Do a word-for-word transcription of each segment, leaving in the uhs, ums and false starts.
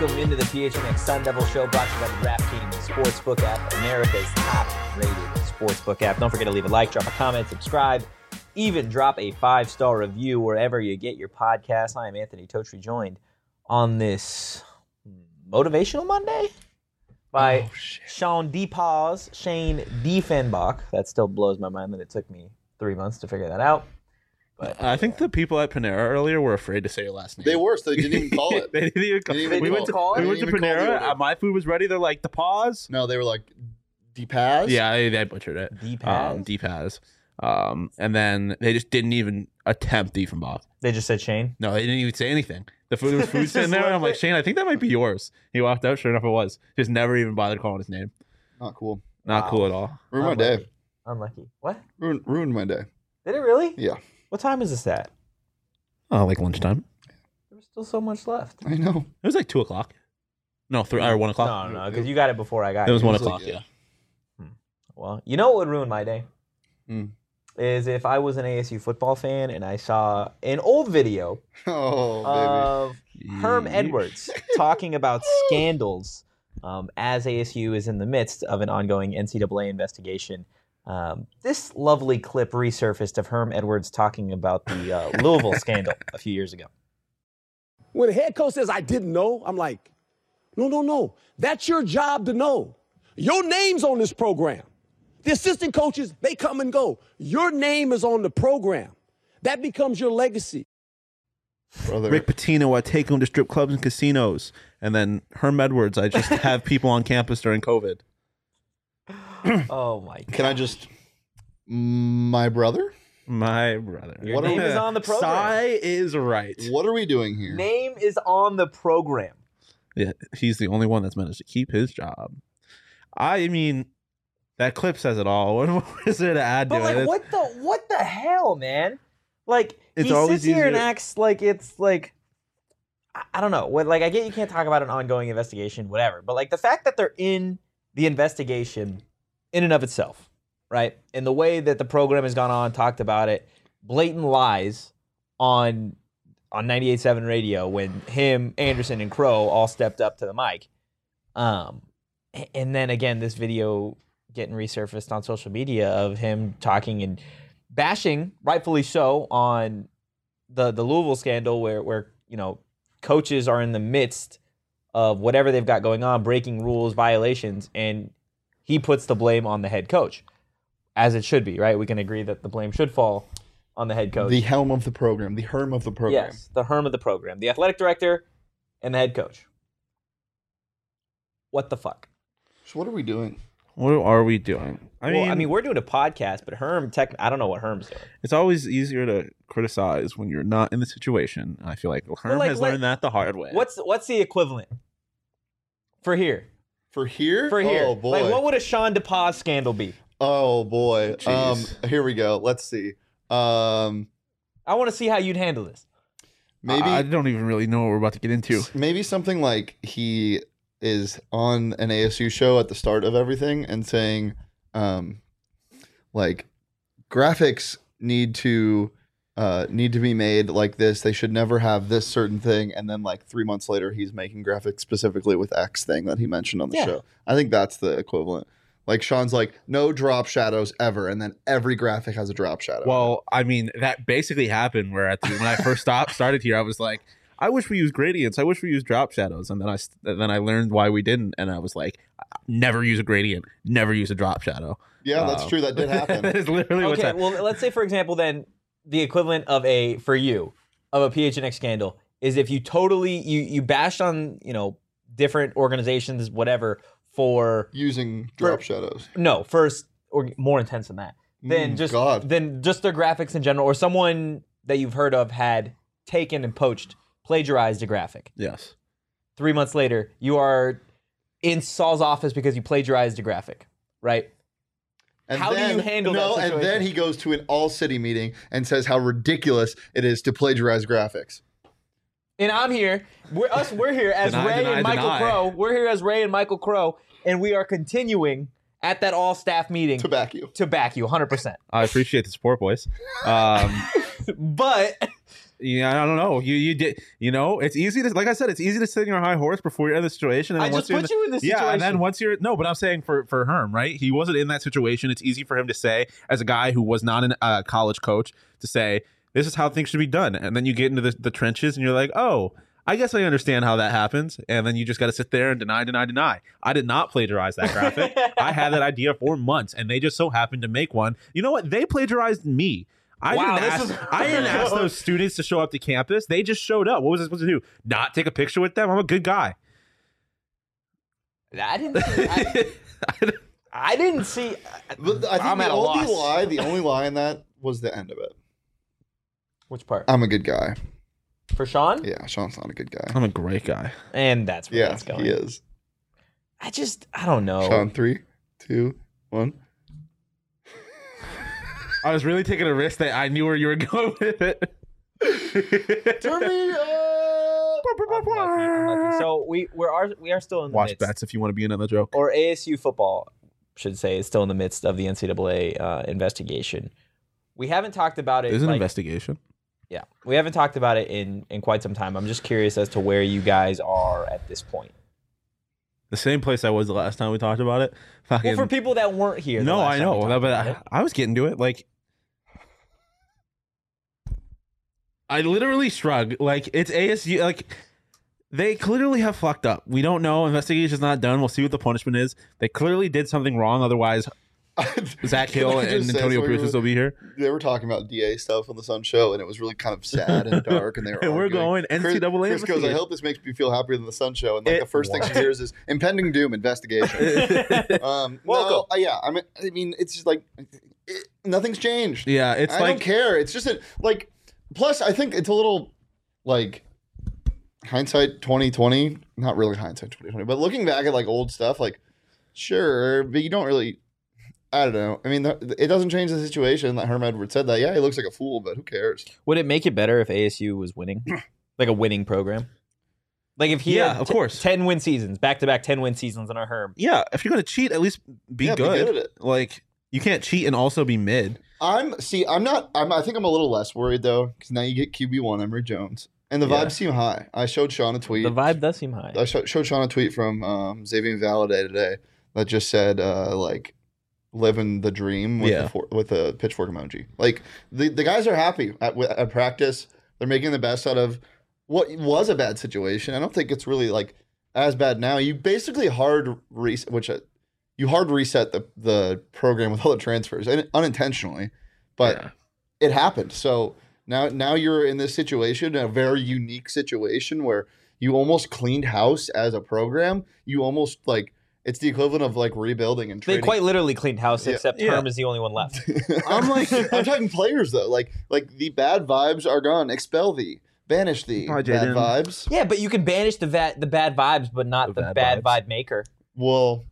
Welcome into the P H N X Sun Devil Show, brought to you by the DraftKings Sportsbook app, America's top-rated sportsbook app. Don't forget to leave a like, drop a comment, subscribe, even drop a five-star review wherever you get your podcast. I am Anthony Totri, joined on this Motivational Monday by oh, Sean DePaz, Shane Diefenbach. That still blows my mind that it took me three months to figure that out. But I think the people at Panera earlier were afraid to say your last name. They were, so they didn't even call it. they didn't even call, didn't even we call went to, call it? we went to Panera. Uh, my food was ready. They're like, the pause. No, they were like, DePaz? Yeah, they, they butchered it. DePaz? Um, DePaz. Um, and then they just didn't even attempt Diefenbach. They just said Shane? No, they didn't even say anything. The food was food sitting there. And I'm like, Shane, I think that might be yours. He walked out. Sure enough, it was. Just never even bothered calling his name. Not cool. Not Wow. cool at all. Ruined my Unlucky. day. Unlucky. What? Ruined, ruined my day. Did it really? Yeah. What time is this at? Oh, like lunchtime. There was still so much left. I know. It was like two o'clock. No, three or one o'clock. No, no, because you got it before I got It was it. one was o'clock. like, Yeah. yeah. Well, you know what would ruin my day? Hmm. Is if I was an A S U football fan and I saw an old video Oh, baby. of Herm Yeesh. Edwards talking about scandals um, as A S U is in the midst of an ongoing N C double A investigation. Um, this lovely clip resurfaced of Herm Edwards talking about the uh, Louisville scandal a few years ago. When the head coach says, I didn't know, I'm like, no, no, no. That's your job to know. Your name's on this program. The assistant coaches, they come and go. Your name is on the program. That becomes your legacy. Brother. Rick Pitino, I take him to strip clubs and casinos. And then Herm Edwards, I just have people on campus during COVID. Oh, my God. Can I just... My brother? My brother. Your What name are- is on the program. Sai is right. What are we doing here? Name is on the program. Yeah, he's the only one that's managed to keep his job. I mean, that clip says it all. What, what is there to add But to like, it? what the what the hell, man? Like, It's he always sits here and easier- acts like it's like, I, I don't know. What like I get you can't talk about an ongoing investigation, whatever. But like the fact that they're in the investigation, in and of itself, right? And the way that the program has gone on, talked about it, blatant lies on on ninety-eight point seven radio when him, Anderson, and Crow all stepped up to the mic. Um, and then again, this video getting resurfaced on social media of him talking and bashing, rightfully so, on the the Louisville scandal where where you know coaches are in the midst of whatever they've got going on, breaking rules, violations, and he puts the blame on the head coach, as it should be, right? We can agree that the blame should fall on the head coach. The helm of the program. The Herm of the program. Yes, the Herm of the program, the athletic director, and the head coach. What the fuck? So what are we doing? What are we doing? I well, mean, I mean, we're doing a podcast, but Herm, tech, I don't know what Herm's doing. it's always easier to criticize when you're not in the situation. I feel like Herm like, has let- learned that the hard way. What's what's the equivalent for here? For here? For here, Oh, boy. like what would a Sean DePaz scandal be? Oh, boy. Um, Jeez. here we go. Let's see. Um, I want to see how you'd handle this. maybe... I don't even really know what we're about to get into. Maybe something like he is on an A S U show at the start of everything and saying, um, like, graphics need to uh, need to be made like this. They should never have this certain thing. And then, like, three months later, he's making graphics specifically with X thing that he mentioned on the Yeah. show. I think that's the equivalent. Like, Sean's like, no drop shadows ever. And then every graphic has a drop shadow. Well, I mean, that basically happened where at the, when I first stopped, started here, I was like, I wish we used gradients. I wish we used drop shadows. And then I and then I learned why we didn't. And I was like, never use a gradient, never use a drop shadow. yeah, that's Um, true. That did happen. that is literally what's Okay, happening. well, let's say for example, then the equivalent of a for you of a P H N X scandal is if you totally you you bashed on you know different organizations, whatever, for Using drop shadows. no first or more intense than that. Then Mm, just God. then just their graphics in general, or someone that you've heard of had taken and poached, plagiarized a graphic. Yes. Three months later, you are in Saul's office because you plagiarized a graphic, right? And How do then, you handle that no, and situation? then he goes to an all-city meeting and says how ridiculous it is to plagiarize graphics. And I'm here. We're us. We're here as Deny, Ray deny, and Michael deny. Crow. We're here as Ray and Michael Crow, and we are continuing at that all-staff meeting To back you. to back you one hundred percent. I appreciate the support, boys. Um, But Yeah, I don't know. You you did. You know, it's easy to like I said. It's easy to sit in your high horse before you're in the situation. And I then just once put you're you in the situation. Yeah, and then once you're no, but I'm saying for for Herm, right? He wasn't in that situation. It's easy for him to say, as a guy who was not a uh, college coach, to say this is how things should be done. And then you get into the, the trenches, and you're like, oh, I guess I understand how that happens. And then you just got to sit there and deny, deny, deny. I did not plagiarize that graphic. I had that idea for months, and they just so happened to make one. You know what? They plagiarized me. I, Wow, didn't this ask, is- I didn't ask those students to show up to campus. They just showed up. What was I supposed to do? Not take a picture with them? I'm a good guy. I didn't. See, I, I didn't see. But I think I'm the at a only loss. lie, the only lie in that was the end of it. Which part? I'm a good guy. For Sean? Yeah, Sean's not a good guy. I'm a great guy. And that's where Yeah, that's going. he is. I just, I don't know. Sean, three, two, one. I was really taking a risk that I knew where you were going with it. Turn me up. I'm lucky, I'm lucky. So we we are we are still in the Watch midst, bets if you want to be another joke. or A S U football should say is still in the midst of the N C double A uh, investigation. We haven't talked about it. There's an like- investigation. Yeah, we haven't talked about it in in quite some time. I'm just curious as to where you guys are at this point. The same place I was the last time we talked about it. Well, Fucking- for people that weren't here. the no, last I time we know, talked but about I, it. I was getting to it. Like, I literally shrug. Like, it's A S U. Like, they clearly have fucked up. We don't know. Investigation's not done. We'll see what the punishment is. They clearly did something wrong. Otherwise, Zach Can Hill I and just say, Antonio so we Pierce were- will still be here. They were talking about D A stuff on the Sun Show, and it was really kind of sad and dark. And they were And we're arguing. going N C double A Chris, Chris goes, I investigation. hope this makes me feel happier than the Sun Show. And like It- the first thing she hears is impending doom investigation. um, no, Welcome. uh, yeah, I mean, I mean, it's just like it, nothing's changed. Yeah, it's I like don't care. It's just a, like. Plus, I think it's a little like hindsight twenty twenty. Not really hindsight twenty twenty, but looking back at like old stuff, like sure, but you don't really. I don't know. I mean, th- it doesn't change the situation that Herm Edwards said that. Yeah, he looks like a fool, but who cares? Would it make it better if A S U was winning, like a winning program? Like if he Yeah, had of t- course. ten win seasons, back to back ten win seasons on our Herm. yeah. If you're gonna cheat, at least be Yeah, be good. good at it. Like, you can't cheat and also be mid. I'm see. I'm not. I'm, I think I'm a little less worried though, because now you get Q B one Emory Jones, and the Yeah. vibes seem high. I showed Sean a tweet. The vibe does seem high. I sh- showed Sean a tweet from um, Xavier Valaday today that just said uh, like living the dream with Yeah. the for- with a pitchfork emoji. Like the the guys are happy at, at practice. They're making the best out of what was a bad situation. I don't think it's really like as bad now. You basically hard reset, which uh, you hard reset the the program with all the transfers and unintentionally, but Yeah. it happened. So now now you're in this situation, a very unique situation where you almost cleaned house as a program. You almost like it's the equivalent of like rebuilding and They trading. quite literally cleaned house, Yeah. except Yeah. Herm is the only one left. I'm like I'm talking players though. Like like the bad vibes are gone. Expel thee, banish thee. Bye, bad Jaden. vibes. Yeah, but you can banish the va- the bad vibes, but not The the, bad bad, vibe maker. Well,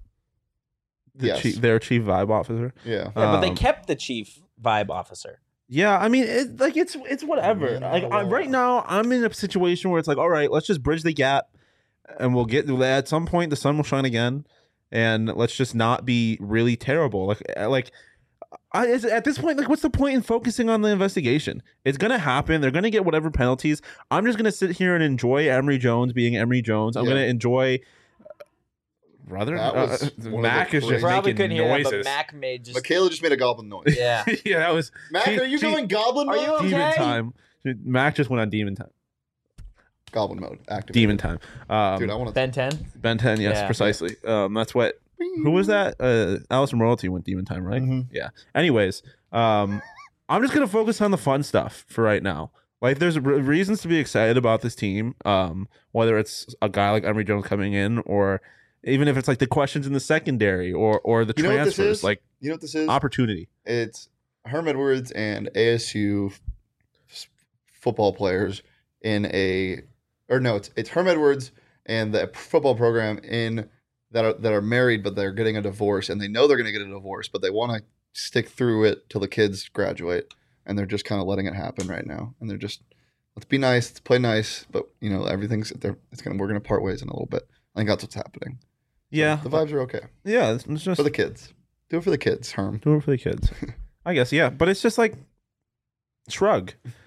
The yes, chief, their chief vibe officer. yeah. Yeah, but they Um, kept the chief vibe officer. Yeah, I mean, it, like it's it's whatever. Yeah, Like I, well. right now, I'm in a situation where it's like, all right, let's just bridge the gap, and we'll get at some point the sun will shine again, and let's just not be really terrible. Like like. I, is, at this point, like, what's the point in focusing on the investigation? It's gonna happen. They're gonna get whatever penalties. I'm just gonna sit here and enjoy Emory Jones being Emory Jones. I'm Yeah. gonna enjoy. Brother, That was uh, one of Mac the is just crazy- Probably making couldn't hear that, noises. but Mac made just Michaela just made a goblin noise. yeah. yeah, that was Mac, she- are you she- going goblin Are mode? you okay? demon time. Mac just went on demon time. Goblin mode. Active. Demon time. Um, Dude, I want to. Ben ten. Ben ten, yes, Yeah. precisely. Um, that's what. Who was that? Uh, Allison Royalty went demon time, right? Mhm. Yeah. Anyways, um, I'm just gonna focus on the fun stuff for right now. Like, there's re- reasons to be excited about this team. Um, whether it's a guy like Emory Jones coming in, or even if it's like the questions in the secondary, or or the You know what this transfers, is? like You know what this is? opportunity. It's Herm Edwards and A S U f- football players in a, or no, it's it's Herm Edwards and the football program in that are that are married, but they're getting a divorce, and they know they're going to get a divorce, but they want to stick through it till the kids graduate, and they're just kind of letting it happen right now, and they're just let's be nice, let's play nice, but you know everything's they're it's gonna we're gonna part ways in a little bit. I think that's what's happening. Yeah, The vibes are okay yeah. It's, it's just for the kids. Do it for the kids, Herm. do it for the kids. I guess, yeah. But it's just like shrug.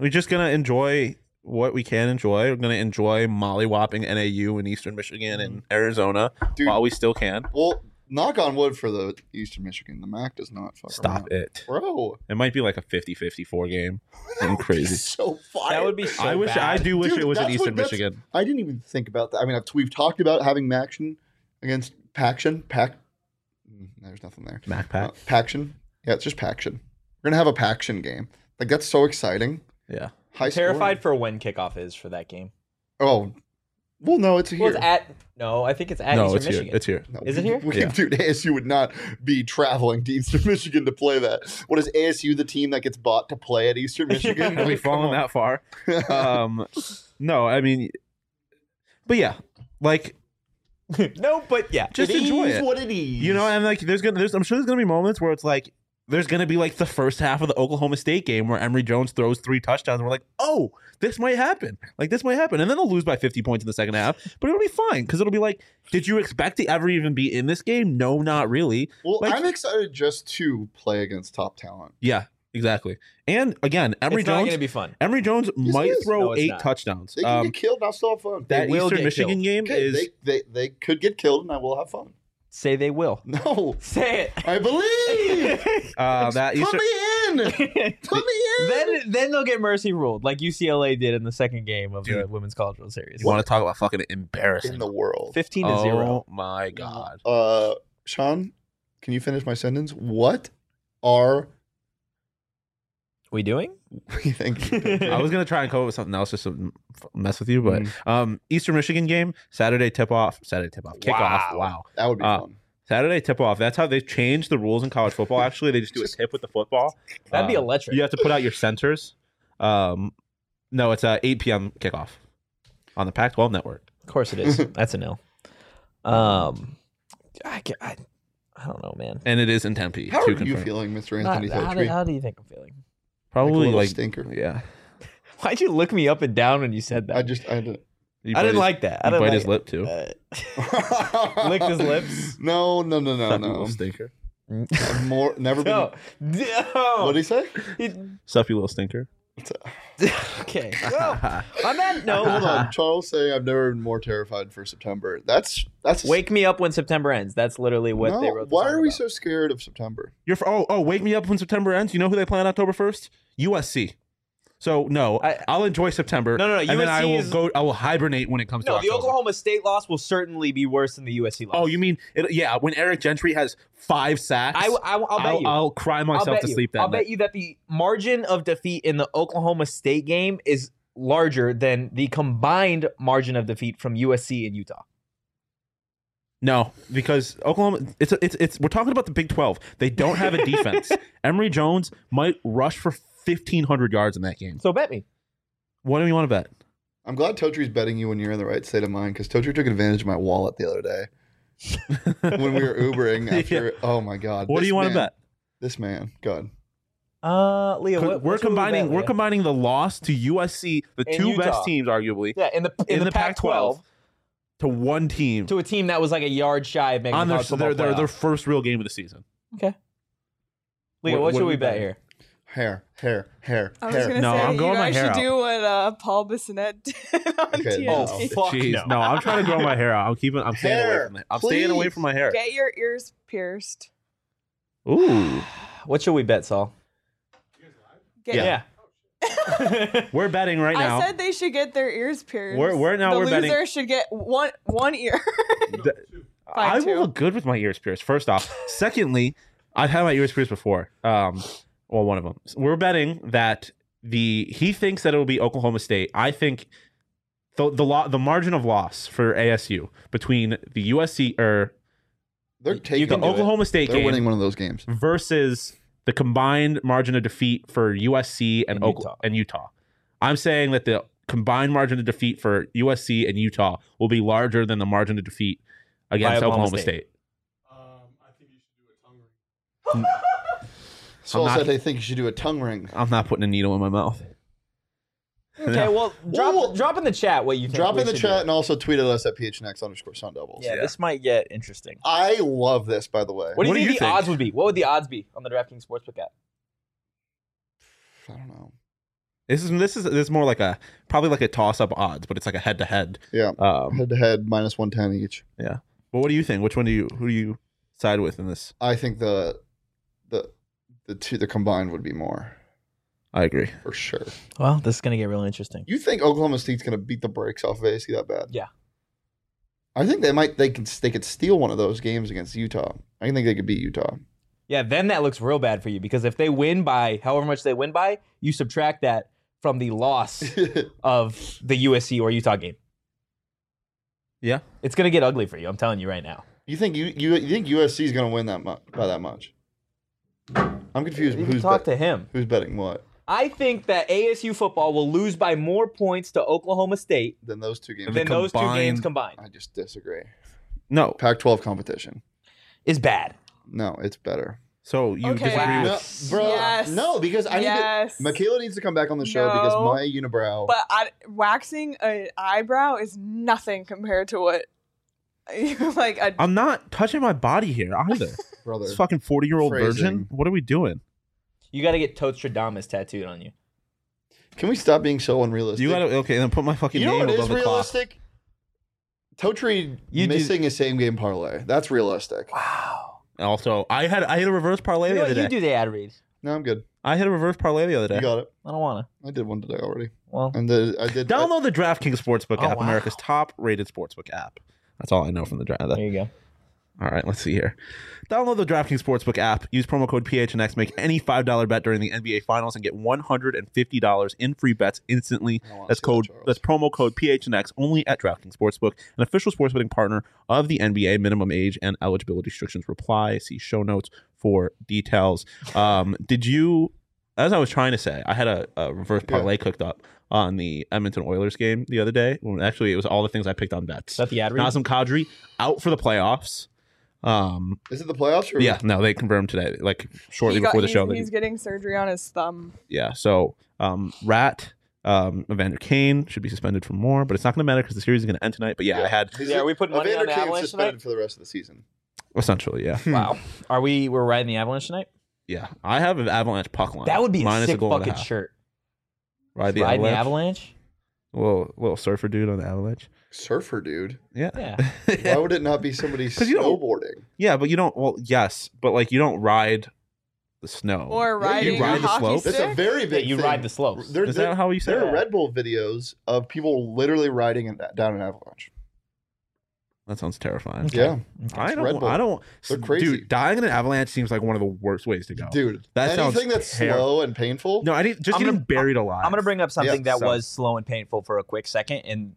we're just gonna enjoy what we can enjoy. We're gonna enjoy mollywhopping N A U in Eastern Michigan and Arizona Dude, while we still can. Well, knock on wood for the Eastern Michigan. The M A C does not fuck Stop around. it. Bro. It might be like a fifty fifty-four game. That would be Crazy. so fire. That would be so I wish bad. I do wish Dude, it was in that's Eastern what- that's- Michigan. I didn't even think about that. I mean, I've, we've talked about having Maction against Paction. Pac. mm, There's nothing there. Mac Pack. Uh, Paction. Yeah, it's just Paction. We're gonna have a Paction game. Like that's so exciting. Yeah. High Terrified scoring. for when kickoff is for that game. Oh, well, no, it's here. Well, it's at no, I think it's at No, Eastern it's here. Michigan. It's here. No, Is it we- here? We, Yeah. Dude, A S U would not be traveling to Eastern Michigan to play that. What is A S U the team that gets bought to play at Eastern Michigan? Have we Like, come fallen on. that far? Um, no, I mean, but yeah, like No, but yeah, Just it enjoy is it. what it is. you know, and like there's gonna, there's I'm sure there's gonna be moments where it's like there's gonna be like the first half of the Oklahoma State game where Emory Jones throws three touchdowns, and we're like, oh, this might happen, like this might happen, and then they'll lose by fifty points in the second half, but it'll be fine because it'll be like, did you expect to ever even be in this game? No, not really. Well, Like- I'm excited just to play against top talent. Yeah, exactly. And again, Emory it's not Jones, going to be fun. Emory Jones Yes, might it is. throw No, it's eight not. touchdowns. They can Um, get killed and I'll still have fun. that will Eastern get Michigan killed. game Okay, is they, they, they could get killed and I will have fun. Say they will. No, Say I believe. uh, that Put Eastern. me in. it. Put me in. then then they'll get mercy ruled like U C L A did in the second game of the Dude. Women's College World Series. You want to talk about fucking embarrassing? in the world. Fifteen to oh zero. my god! Uh, Sean, can you finish my sentence? What are We doing? we thinking? I was gonna try and come up with something else just to f- mess with you, but um, Eastern Michigan game Saturday tip off, Saturday tip off, kickoff. Wow. Wow, That would be Uh, fun. Saturday tip off. That's how they've changed the rules in college football. Actually, they just do a tip with the football. That'd be Um, electric. You have to put out your centers. Um, no, it's a eight p.m. kickoff on the Pac twelve network. Of course it is. That's a no. Um, I, ca- I, I don't know, man. And it is in Tempe. How to are you confirm. feeling, Mister Not- Anthony how, do, Totri? how do you think I'm feeling? Probably little like, stinker. Yeah, Why'd you look me up and down when you said that? I just I didn't. You I bite didn't his- like that. I You didn't bite like his it. lip too. Uh, Licked his lips? No, no, no, no, Suck you little no. stinker. I've more never been. no. No. What did he say? He- Sup, you little stinker. okay. Well, on that note, Hold on, Charles saying I've never been more terrified for September. That's that's wake me up when September ends. That's literally what No, they wrote. the why song are we about. so scared of September? You're for, oh oh wake me up when September ends. You know who they play on October first? U S C. So no, I- I, will enjoy September. No, no, no, and then I U S C will is- go. I will hibernate when it comes No, to the October. Oklahoma State loss will certainly be worse than the U S C loss. Oh, you mean it, yeah? When Eric Gentry has five sacks, I, I, I'll bet I'll, you. I'll cry I'll myself bet to you. sleep that I'll night. bet you that the margin of defeat in the Oklahoma State game is larger than the combined margin of defeat from U S C and Utah. No, because Oklahoma, it's it's it's. We're talking about the Big twelve. They don't have a defense. Emory Jones might rush for fifteen hundred yards in that game. So bet me. What do you want to bet? I'm glad Totri's betting you when you're in the right state of mind because Totri took advantage of my wallet the other day when we were Ubering after. Oh my god! What do This you want to man- bet? This man, God. Uh, Leah, what, we're what should we combining. bet, We're Leah? combining the loss to U S C, the And two Utah. best teams, arguably, Yeah, in the in, in the, the Pac Pac twelve to one team to a team that was like a yard shy of making on the their college football their, their their playoff. first real game of the season. Okay. Leah, What- what, what should do we we bet bet? here? Hair, hair, hair, I was hair. gonna No, say I'm you growing my guys hair should out. do what uh, Paul Bissonnette did on Okay, T N T. no. Oh, fuck Jeez, no. no. I'm trying to grow my hair out. I'm keeping. I'm staying away Hair, from it. I'm staying away please. from my hair. Get your ears pierced. Ooh, What should we bet, Saul? Get Yeah. Yeah. we're betting right now. I said they should get their ears pierced. We're- we're now- the we're loser betting- should get one one ear. I Five, will two. look good with my ears pierced. First off, secondly, I've had my ears pierced before. Um, well, one of them. We're betting that the he thinks that it will be Oklahoma State. I think the the lo- the margin of loss for A S U between the U S C or They're You taking. can the do it. Oklahoma State They're game winning one of those games. versus the combined margin of defeat for U S C and And Oklahoma Utah. and Utah. I'm saying that the combined margin of defeat for U S C and Utah will be larger than the margin of defeat against Oklahoma Oklahoma State. State. Saul not- said they think you should do a tongue ring. I'm not putting a needle in my mouth. Okay, well, drop Well, drop in the chat what you think. Drop we in the should do. chat and also tweet at us at P H N X underscore Sun Doubles. Yeah, Yeah. this might get interesting. I love this, by the way. What do you What do think you the think? odds would be? What would the odds be on the DraftKings Sportsbook app? I don't know. This is this is this is more like a probably like a toss up odds, but it's like a head to head. Yeah. Um, Head to head, minus one ten each. yeah. But what do you think? Which one do you who do you side with in this? I think the the the two the combined would be more I agree. for sure. Well, this is gonna get real interesting. You think Oklahoma State's gonna beat the brakes off of A S U that bad? Yeah. I think they might. They can. They could steal one of those games against Utah. I think they could beat Utah. Yeah, then that looks real bad for you because if they win by however much they win by, you subtract that from the loss of the U S C or Utah game. Yeah. It's gonna get ugly for you. I'm telling you right now. You think you you, you think U S C is gonna win that much by that much? I'm confused. You can Who's talk bet- to him. Who's betting what? I think that A S U football will lose by more points to Oklahoma State Then those two games. Then than those two games combined- combined. I just disagree. No. Pac twelve competition. Is bad. No, it's better. So you Okay. disagree Wow. with No, bro. Yes. No, because I Yes. need to. Michaela needs to come back on the show because No. my unibrow. But I, waxing an eyebrow is nothing compared to what, like a. I'm not touching my body here either. brother. This fucking forty year old Phrasing. virgin. What are we doing? You got to get Tostradamus tattooed on you. Can we stop being so unrealistic? You gotta okay, then put my fucking You know name what above is the cloth. realistic? Totri You do- missing a same game parlay. That's realistic. Wow. Also, I had I hit a reverse parlay You, the know other what? You day. do the ad read. No, I'm good. I hit a reverse parlay the other day. You got it. I don't want to. I did one today already. Well, And the, I did. Download the DraftKings Sportsbook Oh, app, wow. America's top rated sportsbook app. That's all I know from the draft. there you go. All right, let's see here. Download the DraftKings Sportsbook app. Use promo code P H N X. Make any five dollar bet during the N B A Finals and get one hundred fifty dollars in free bets instantly. I wanna That's see that, code. Charles. That's promo code P H N X only at DraftKings Sportsbook, an official sports betting partner of the N B A. Minimum age and eligibility restrictions apply. See show notes for details. Um, did you? As I was trying to say, I had a, a reverse Yeah. parlay cooked up on the Edmonton Oilers game the other day. When actually, it was all the things I picked on bets. Is that the ad read? Nazem Kadri out for the playoffs. Um, Is it the playoffs? Or yeah, no, they confirmed today, like shortly He got- before the he's, show. that he's he- getting surgery on his thumb. yeah, so um, Rat, um, Evander Kane should be suspended for more, but it's not going to matter because the series is going to end tonight. But yeah, I had Is Yeah, it- are we putting money Evander on the Kane's Avalanche suspended tonight? for the rest of the season. essentially, yeah, Wow. Are we? We're riding the Avalanche tonight. yeah. I have an Avalanche puck line. That would be a minus sick goal and a fucking half. shirt. Ride the Riding Avalanche. the Avalanche. Little little surfer dude on the Avalanche. Surfer dude. Yeah, Why would it not be somebody 'Cause you don't- snowboarding? yeah, but you don't. Well, yes, but like you don't ride the snow. Or Yeah, you riding ride a the hockey slope? stick. That's a very Yeah, big. you thing. ride the slopes. There, Is there, that how you say there it? are Red Bull videos of people literally riding in, down an avalanche. That sounds terrifying. Yeah, I It's don't. Red Bull. I don't. They're crazy. Dude, dying in an avalanche seems like one of the worst ways to go. dude. That sounds anything that's terrible. slow and painful. No, I didn't. Just I'm getting gonna- buried alive. I'm going to bring up something Yeah, that so- was slow and painful for a quick second. And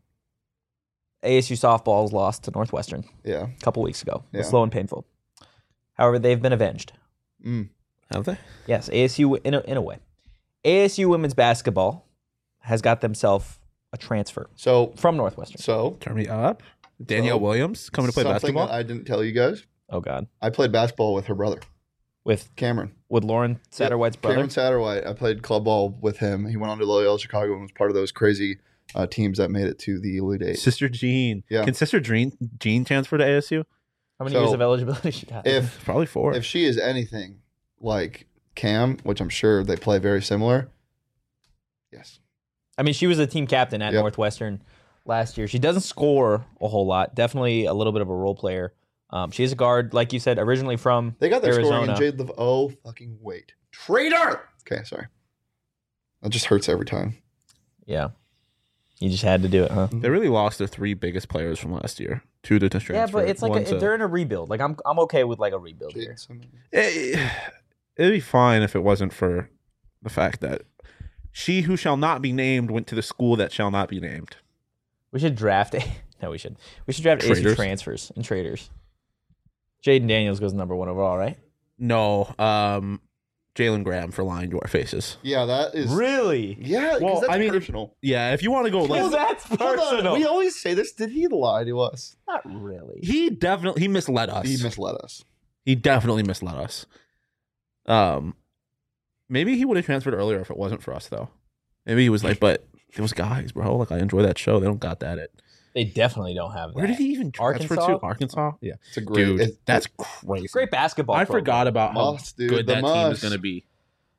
A S U softballs lost to Northwestern Yeah. a couple weeks ago. It was Yeah. slow and painful. However, they've been avenged. Mm. Have they? Yes, A S U in a, in a way. A S U women's basketball has got themselves a transfer So, from Northwestern. so Turn me up. Danielle So, Williams coming to play something basketball. that I didn't tell you guys. Oh God, I played basketball with her brother, with Cameron. with Lauren Satterwhite's brother. Cameron Satterwhite. I played club ball with him. He went on to Loyola Chicago and was part of those crazy uh, teams that made it to the Elite Eight. Sister Jean. Yeah. Can Sister Jean Jean transfer to A S U? How many So, years of eligibility she got? If Probably four. if she is anything like Cam, which I'm sure they play very similar, yes. I mean, she was a team captain at Yep. Northwestern last year. She doesn't score a whole lot. Definitely a little bit of a role player. Um, she's a guard, like you said, originally from They got their Arizona. scoring in Jade Lev. Oh, fucking wait. Traitor! Okay, sorry. That just hurts every time. Yeah, you just had to do it, huh? They really lost their three biggest players from last year. Two to transfer. Yeah, but it's like one a, to- they're in a rebuild. Like I'm, I'm okay with like a rebuild Jade here. Simmons. Eh, it'd be fine if it wasn't for the fact that she who shall not be named went to the school that shall not be named. We should draft a. No, we should. We should draft A S U Traders. transfers and traders. Jaden Daniels goes number one overall, right? No, um, Jalen Graham for lying to our faces. Yeah, that is. Really? Yeah, because Well, that's I mean, personal. Yeah, if you want to go Well, like that's Hold on, personal. we always say this. Did he lie to us? Not really. he definitely he misled us. He misled us. He definitely misled us. Um, maybe he would have transferred earlier if it wasn't for us, though. Maybe he was like, but those guys, bro, like I enjoy that show. They don't got that. It. They definitely don't have that. Where did he even transfer Arkansas? to? Arkansas. Yeah, It's a great. dude, it- that's crazy. Great basketball. I program. forgot about how Moss, dude, good the that team is Moss. going to be.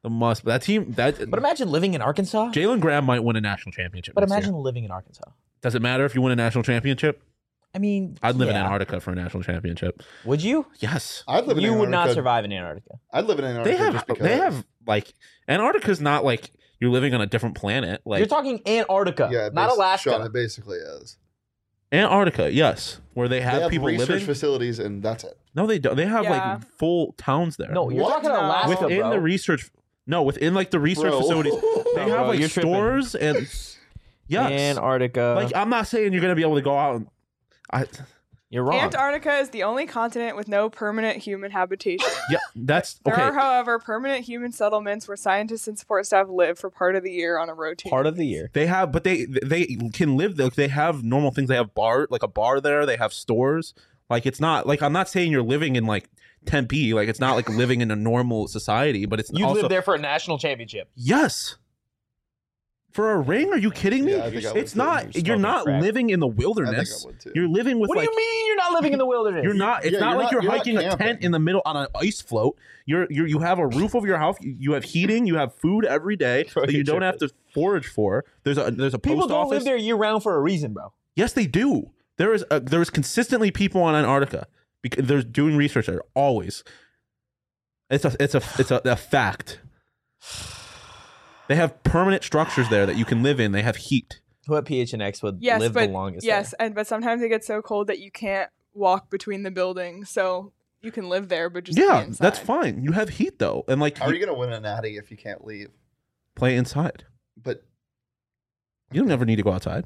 A must. But that team. That. But imagine living in Arkansas. Jalen Graham might win a national championship. But next imagine year. living in Arkansas. Does it matter if you win a national championship? I mean, I'd live yeah. in Antarctica for a national championship. Would you? Yes. I'd live in You would not Antarctica. survive in Antarctica. I'd live in Antarctica They have. just because. They have like Antarctica's not like you're living on a different planet. Like You're talking Antarctica, yeah, not bas- Alaska. Sean, it basically is. Antarctica, yes, where they have, They have people research living. facilities, and that's it. No, they don't. They have Yeah. like full towns there. No, you're What? talking No. Alaska, within bro. the research. No, within like the research Bro. facilities, they No, have bro, like you're tripping. stores and yes, Antarctica. like I'm not saying you're gonna be able to go out and. I you're wrong. Antarctica is the only continent with no permanent human habitation. yeah, that's There okay. are, however, permanent human settlements where scientists and support staff live for part of the year on a rotating. Part of the year. They have, but they they can live there. They have normal things. They have bar, like a bar there. They have stores. Like it's not like I'm not saying you're living in like Tempe. Like it's not like living in a normal society. But it's You also live there for a national championship. yes. For a ring? Are you kidding me? Yeah, I think I would it's too. not. You're You're not smoking crack. living in the I think I wilderness. would too. You're living with What like. do you mean you're not living in the wilderness? You're not. It's Yeah, not you're like not- you're, you're not hiking a tent camping. in the middle on an ice float. You're you you have a roof over your house. You, you have heating. You have food every day Bro, that you you're don't have to forage for. There's a there's a People post don't office. live there year round for a reason, bro. Yes, they do. There is a, there is consistently people on Antarctica because they're doing research there always. It's a it's a it's a, a fact. They have permanent structures there that you can live in. They have heat. Who at P H N X would Yes, live but the longest? yes, there? and but sometimes it gets so cold that you can't walk between the buildings, so you can live there, but just Yeah, be that's inside. fine. You have heat though, and like How are you you gonna win a natty if you can't leave? play inside. But You don't ever need to go outside.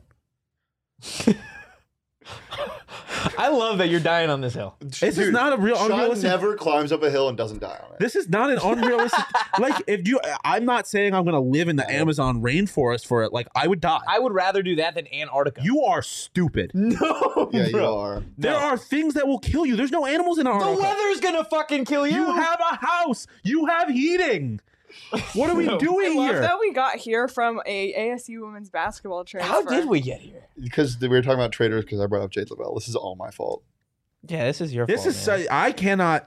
I love that you're dying on this hill. This is not a real Sean unrealistic. never climbs up a hill and doesn't die on it. This is not an unrealistic. Like if you, I'm not saying I'm gonna live in the Amazon rainforest for it. Like I would die. I would rather do that than Antarctica. You are stupid. no, yeah, you bro. are. There No. are things that will kill you. There's no animals in The Antarctica. weather's gonna fucking kill you. You have a house. You have heating. What are we No. I doing love here? that we got here from a A S U women's basketball transfer. How did we get here? Because we were talking about traders because I brought up Jade Lavelle. This is all my fault. Yeah, this is your This fault. is man. so, I cannot.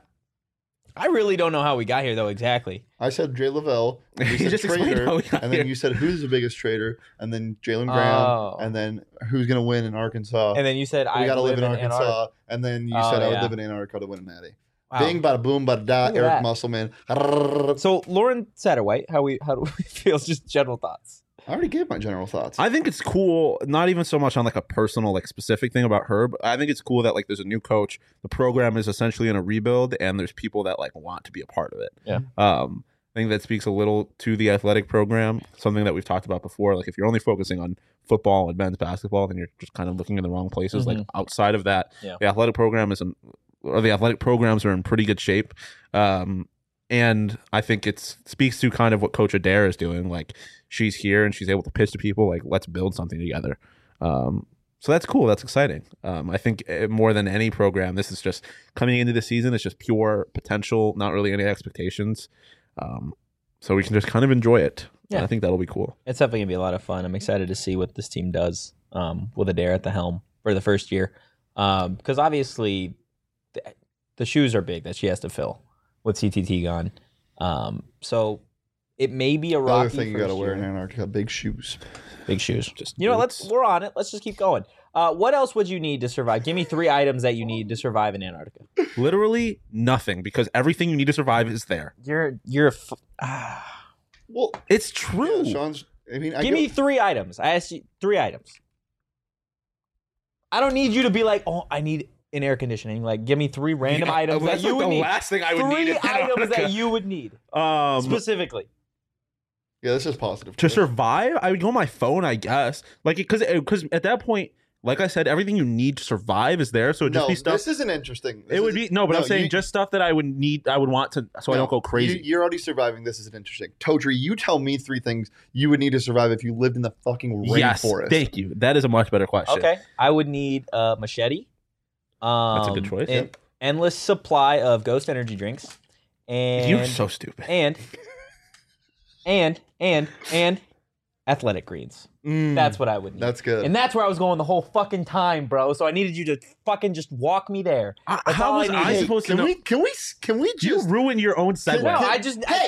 I really don't know how we got here though exactly. I said Jade Lavelle, and You you said just explained trader, how we got and then here. you said who's the biggest trader, and then Jalen Graham, Oh. and then who's gonna win in Arkansas. And then you said we I gotta live, in Antarctica. Arkansas, and then you Oh, said I would yeah. live in Antarctica to win a natty. Wow. Bing, bada boom, bada da. Look at Eric that. Musselman. I So Lauren Satterwhite, how we how do we feel? Just general thoughts. already gave my general thoughts. I think it's cool, not even so much on like a personal, like specific thing about her, but I think it's cool that like there's a new coach. The program is essentially in a rebuild, and there's people that like want to be a part of it. Yeah. Um, I think that speaks a little to the athletic program, something that we've talked about before. Like if you're only focusing on football and men's basketball, then you're just kind of looking in the wrong places. Like outside of that, Yeah. the athletic program is in, or the athletic programs are in pretty good shape. Um, and I think it speaks to kind of what Coach Adair is doing. Like she's here and she's able to pitch to people like, let's build something together. Um, so that's cool. That's exciting. Um, I think uh, more than any program, this is just coming into the season. It's just pure potential, not really any expectations. Um, so we can just kind of enjoy it. Yeah. And I think that'll be cool. It's definitely gonna be a lot of fun. I'm excited to see what this team does um, with Adair at the helm for the first year, because obviously the, the shoes are big that she has to fill with C T T gone. Um, so it may be a rocky Another thing you first gotta wear in year. Antarctica: big shoes. Big shoes. Just You know, let's boots. we're on it. Let's just keep going. Uh, what else would you need to survive? Give me three items that you need to survive in Antarctica. Literally nothing, because everything you need to survive is there. You're you're. A f- ah. Well, It's true. yeah, Sean's. I mean, I Give get- me three items. I asked you three items. I don't need you to be like, oh, I need an air conditioning. Like, give me three random Yeah, items that that's you like would the need. last thing I would three need in items Antarctica. that you would need Um, specifically. Yeah, this is positive. to survive, I would go on my phone, I guess. Like, because because at that point, like I said, everything you need to survive is there. So it'd just no, be stuff. this isn't interesting. This It would is- be no, but I'm saying you- just stuff that I would need. I would want to, so I no, don't go crazy. You, you're already surviving. This isn't interesting. Totri, you tell me three things you would need to survive if you lived in the fucking yes, rainforest. thank you. That is a much better question. Okay, I would need a machete. Um, That's a good choice, An endless supply of Ghost energy drinks, and You're so stupid. and and and and athletic greens. Mm. That's what I would need. That's good. And that's where I was going the whole fucking time, bro. So I needed you to fucking just walk me there. I- That's how all was I I needed. supposed to can know? we can we can we You just ruined your own segue. No, I just I, hey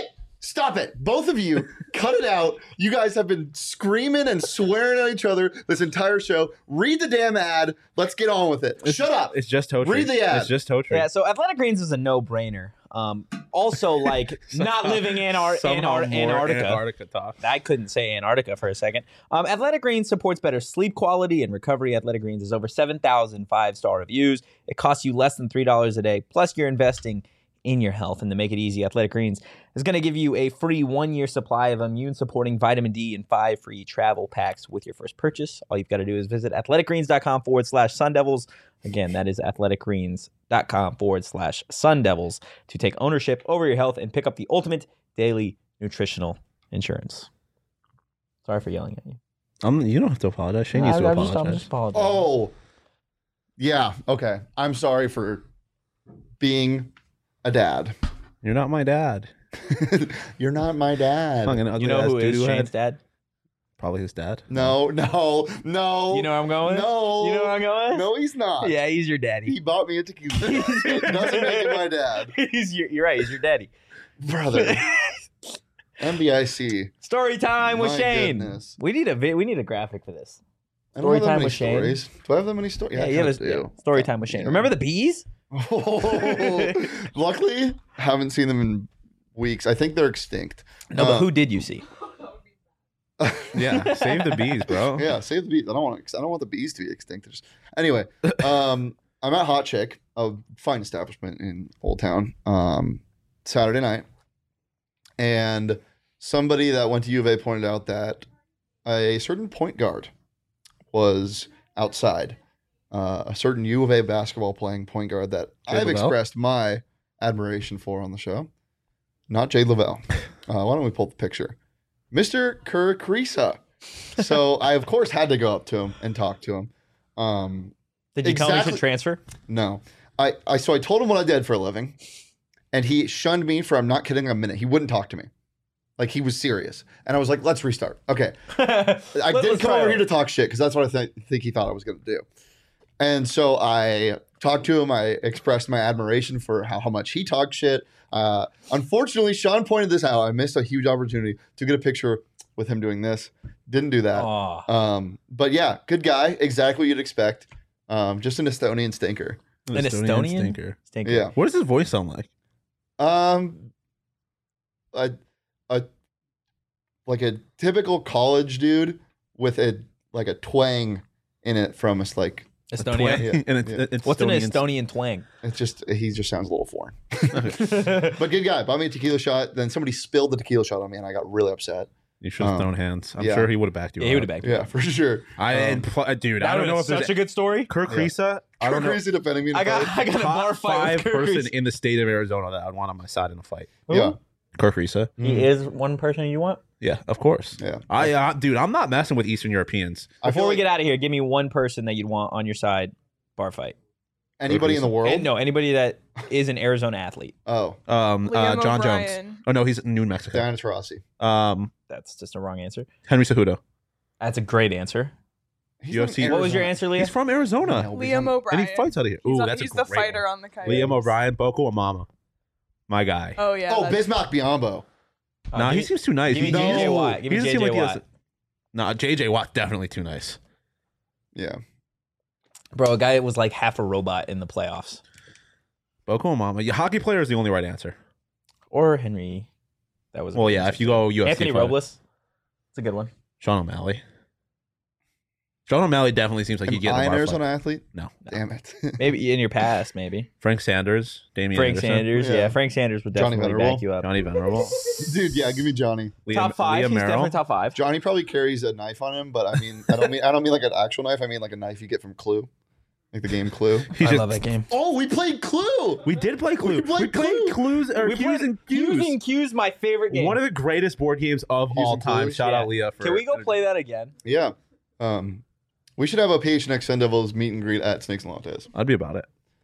Stop it. Both of you, cut it out. You guys have been screaming and swearing at each other this entire show. Read the damn ad. Let's get on with it. It's, Shut up. It's just toe tree. Read the ad. It's just toe tree. Yeah, so Athletic Greens is a no-brainer. Um, also, like, not living in Ar- Somehow Antar- more Antarctica. Antarctica talk. I couldn't say Antarctica for a second. Um, Athletic Greens supports better sleep quality and recovery. Athletic Greens has over seven thousand five-star reviews. It costs you less than three dollars a day. Plus, you're investing in your health. And to make it easy, Athletic Greens is going to give you a free one-year supply of immune-supporting vitamin D and five free travel packs with your first purchase. All you've got to do is visit athleticgreens.com forward slash Sun Devils. Again, that is athleticgreens.com forward slash Sun Devils to take ownership over your health and pick up the ultimate daily nutritional insurance. Sorry for yelling at you. Um, you don't have to apologize. Shane needs to I'm just, apologize. I'm just apologizing. Oh, yeah. Okay. I'm sorry for being a dad. You're not my dad. You're not my dad. Fucking ugly You know ass who is doo-doo Shane's head. dad? Probably his dad. No, no, no. You know where I'm going? No. You know where I'm going? No, he's not. Yeah, he's your He daddy. bought me a tequila. It doesn't make him my dad. he's your, you're right. He's your daddy. Brother. M B I C. Story time with My Shane. goodness. We need a vi- we need a graphic for this. I don't Story have that time many with Shane. stories. Do I have that many stories? Yeah, I you have a kinda do. yeah, story time with Shane. Yeah. Remember the bees? Oh, luckily, haven't seen them in weeks. I think they're extinct. No, but Uh, who did you see? Yeah, save the bees, bro. Yeah, save the bees. I don't want. I don't want the bees to be extinct. They're just- Anyway, um, I'm at Hot Chick, a fine establishment in Old Town, um, Saturday night, and somebody that went to U of A pointed out that a certain point guard was outside. Uh, a certain U of A basketball playing point guard that Jay I've Lavelle? expressed my admiration for on the show. Not Jay Lavelle. Uh, why don't we pull the picture? Mister Kerr Kriisa. So I, of course, had to go up to him and talk to him. Um, Did you tell him he exactly- should transfer? no. I, I so I told him what I did for a living, and he shunned me for, I'm not kidding, a minute. He wouldn't talk to me. Like, he was serious. And I was like, let's restart. Okay. I Let- didn't let's come try over it. here to talk shit because that's what I th- think he thought I was going to do. And so I talked to him. I expressed my admiration for how, how much he talked shit. Uh, unfortunately, Sean pointed this out. I missed a huge opportunity to get a picture with him doing this. Didn't do that. Aw. Um, but yeah, good guy. Exactly what you'd expect. Um, just an Estonian stinker. An Estonian? stinker. Stinker. Yeah. What does his voice sound like? Um, a, a, like a typical college dude with a like a twang in it from us. Like Estonia. Yeah. and it's, Yeah. it's What's an Estonian- Estonian twang? it's just he just sounds a little foreign. But good guy. Bought me a tequila shot. Then somebody spilled the tequila shot on me, and I got really upset. You should have Um, thrown hands. I'm yeah. sure he would have backed you. Yeah, he up. would have backed. Yeah, for sure. I Um, and pl- dude, I That don't would know have if been there's such a good story. Kirk Yeah. Risa. I don't know. Crazy defending me. In I got fight. I got a bar Top fight five with Kirk person Reese. in the state of Arizona that I'd want on my side in a fight. Yeah. Kirk Risa. He is one person you want. Yeah, of course. Yeah. I, uh, dude, I'm not messing with Eastern Europeans. I feel Before we like get out of here, give me one person that you'd want on your side, bar fight. anybody in the world. And no, anybody that is an Arizona athlete. Oh, Um, uh, Liam John O'Brien. Jones. Oh no, he's in New Mexico. Diana Taurasi. Um, That's just a wrong answer. Henry Cejudo. That's a great answer. He's U F from C. What was your Arizona. answer, Leah? He's from Arizona, No, he's Liam from- O'Brien. and he fights out of here. He's, Ooh, a- that's he's a the great fighter one. on the Coyotes. Liam O'Brien, Boko Amama, my guy. Oh yeah. Oh, that's- Bismarck Biombo. Uh, nah, give he me- seems too nice. Give me He- No. J J he- Watt. Give he me doesn't J seem J like he has- Watt. Nah, J J Watt definitely too nice. Yeah. Bro, a guy that was like half a robot in the playoffs. Boko Amama. Yeah, hockey player is the only right answer. Or Henry. That was. a Well, good yeah, answer. if you go U F C, Anthony fighter. Robles. It's a good one. Sean O'Malley. Sean O'Malley definitely seems like Am he'd get in I a an bar Arizona fight. athlete? No. Damn it. Maybe in your past, maybe. Frank Sanders, Damian Frank Anderson, Sanders. Yeah. Yeah. Frank Sanders would Johnny definitely Venerable. back you up. Johnny Venerable, Dude, yeah, give me Johnny. Liam, top five. Liam He's Merrill. definitely top five. Johnny probably carries a knife on him, but I mean, I don't mean, I don't mean like an actual knife. I mean like a knife you get from Clue, like the game Clue. He I just- love that game. Oh, we played Clue. We did play Clue. We played Clue. Clues or We Q's played and Q's Q's. and Q's, my favorite game. One of the greatest board games of Q's all and time. Clues? Shout Yeah. out Leah. For Can we go play that again? Yeah. Um, we should have a P H N X Sun Devils meet and greet at Snakes and Lattes. I'd be about it.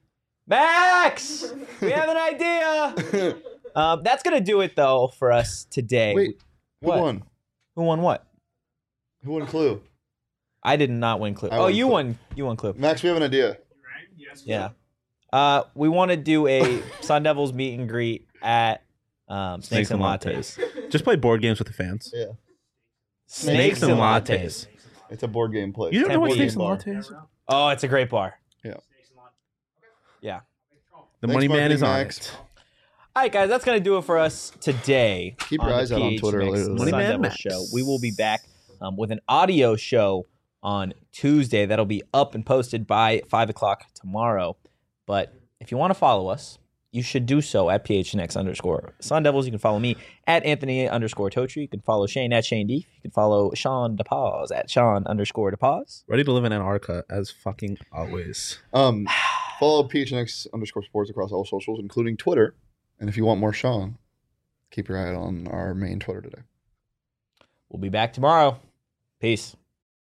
Max, we have an idea. Um, that's gonna do it though for us today. Wait, who What? won? Who won what? Who won Clue? I did not win Clue. I Oh, won you Clue. won. You won Clue. Max, we have an idea. Yeah. Uh, we want to do a Sun Devils meet and greet at Um, snakes, and lattes. Just play board games with the fans. Yeah. Snakes and lattes. It's a board game place. You don't know what Temple snakes and Game lattes? Oh, it's a great bar. Yeah. Yeah. The Thanks, money man Marketing is on Max. it. All right, guys, that's going to do it for us today. Keep your on the eyes out on P H Twitter Mix later Sun today. Money Man Devil Max. Show. We will be back um, with an audio show on Tuesday. That'll be up and posted by five o'clock tomorrow. But if you want to follow us, you should do so at P H N X underscore Sun Devils. You can follow me at Anthony underscore Totri. You can follow Shane at Shane Deef. You can follow Sean DePause at Sean underscore DePause. Ready to live in Antarctica as fucking always. Um, follow P H N X underscore sports across all socials, including Twitter. And if you want more Sean, keep your eye out on our main Twitter today. We'll be back tomorrow. Peace.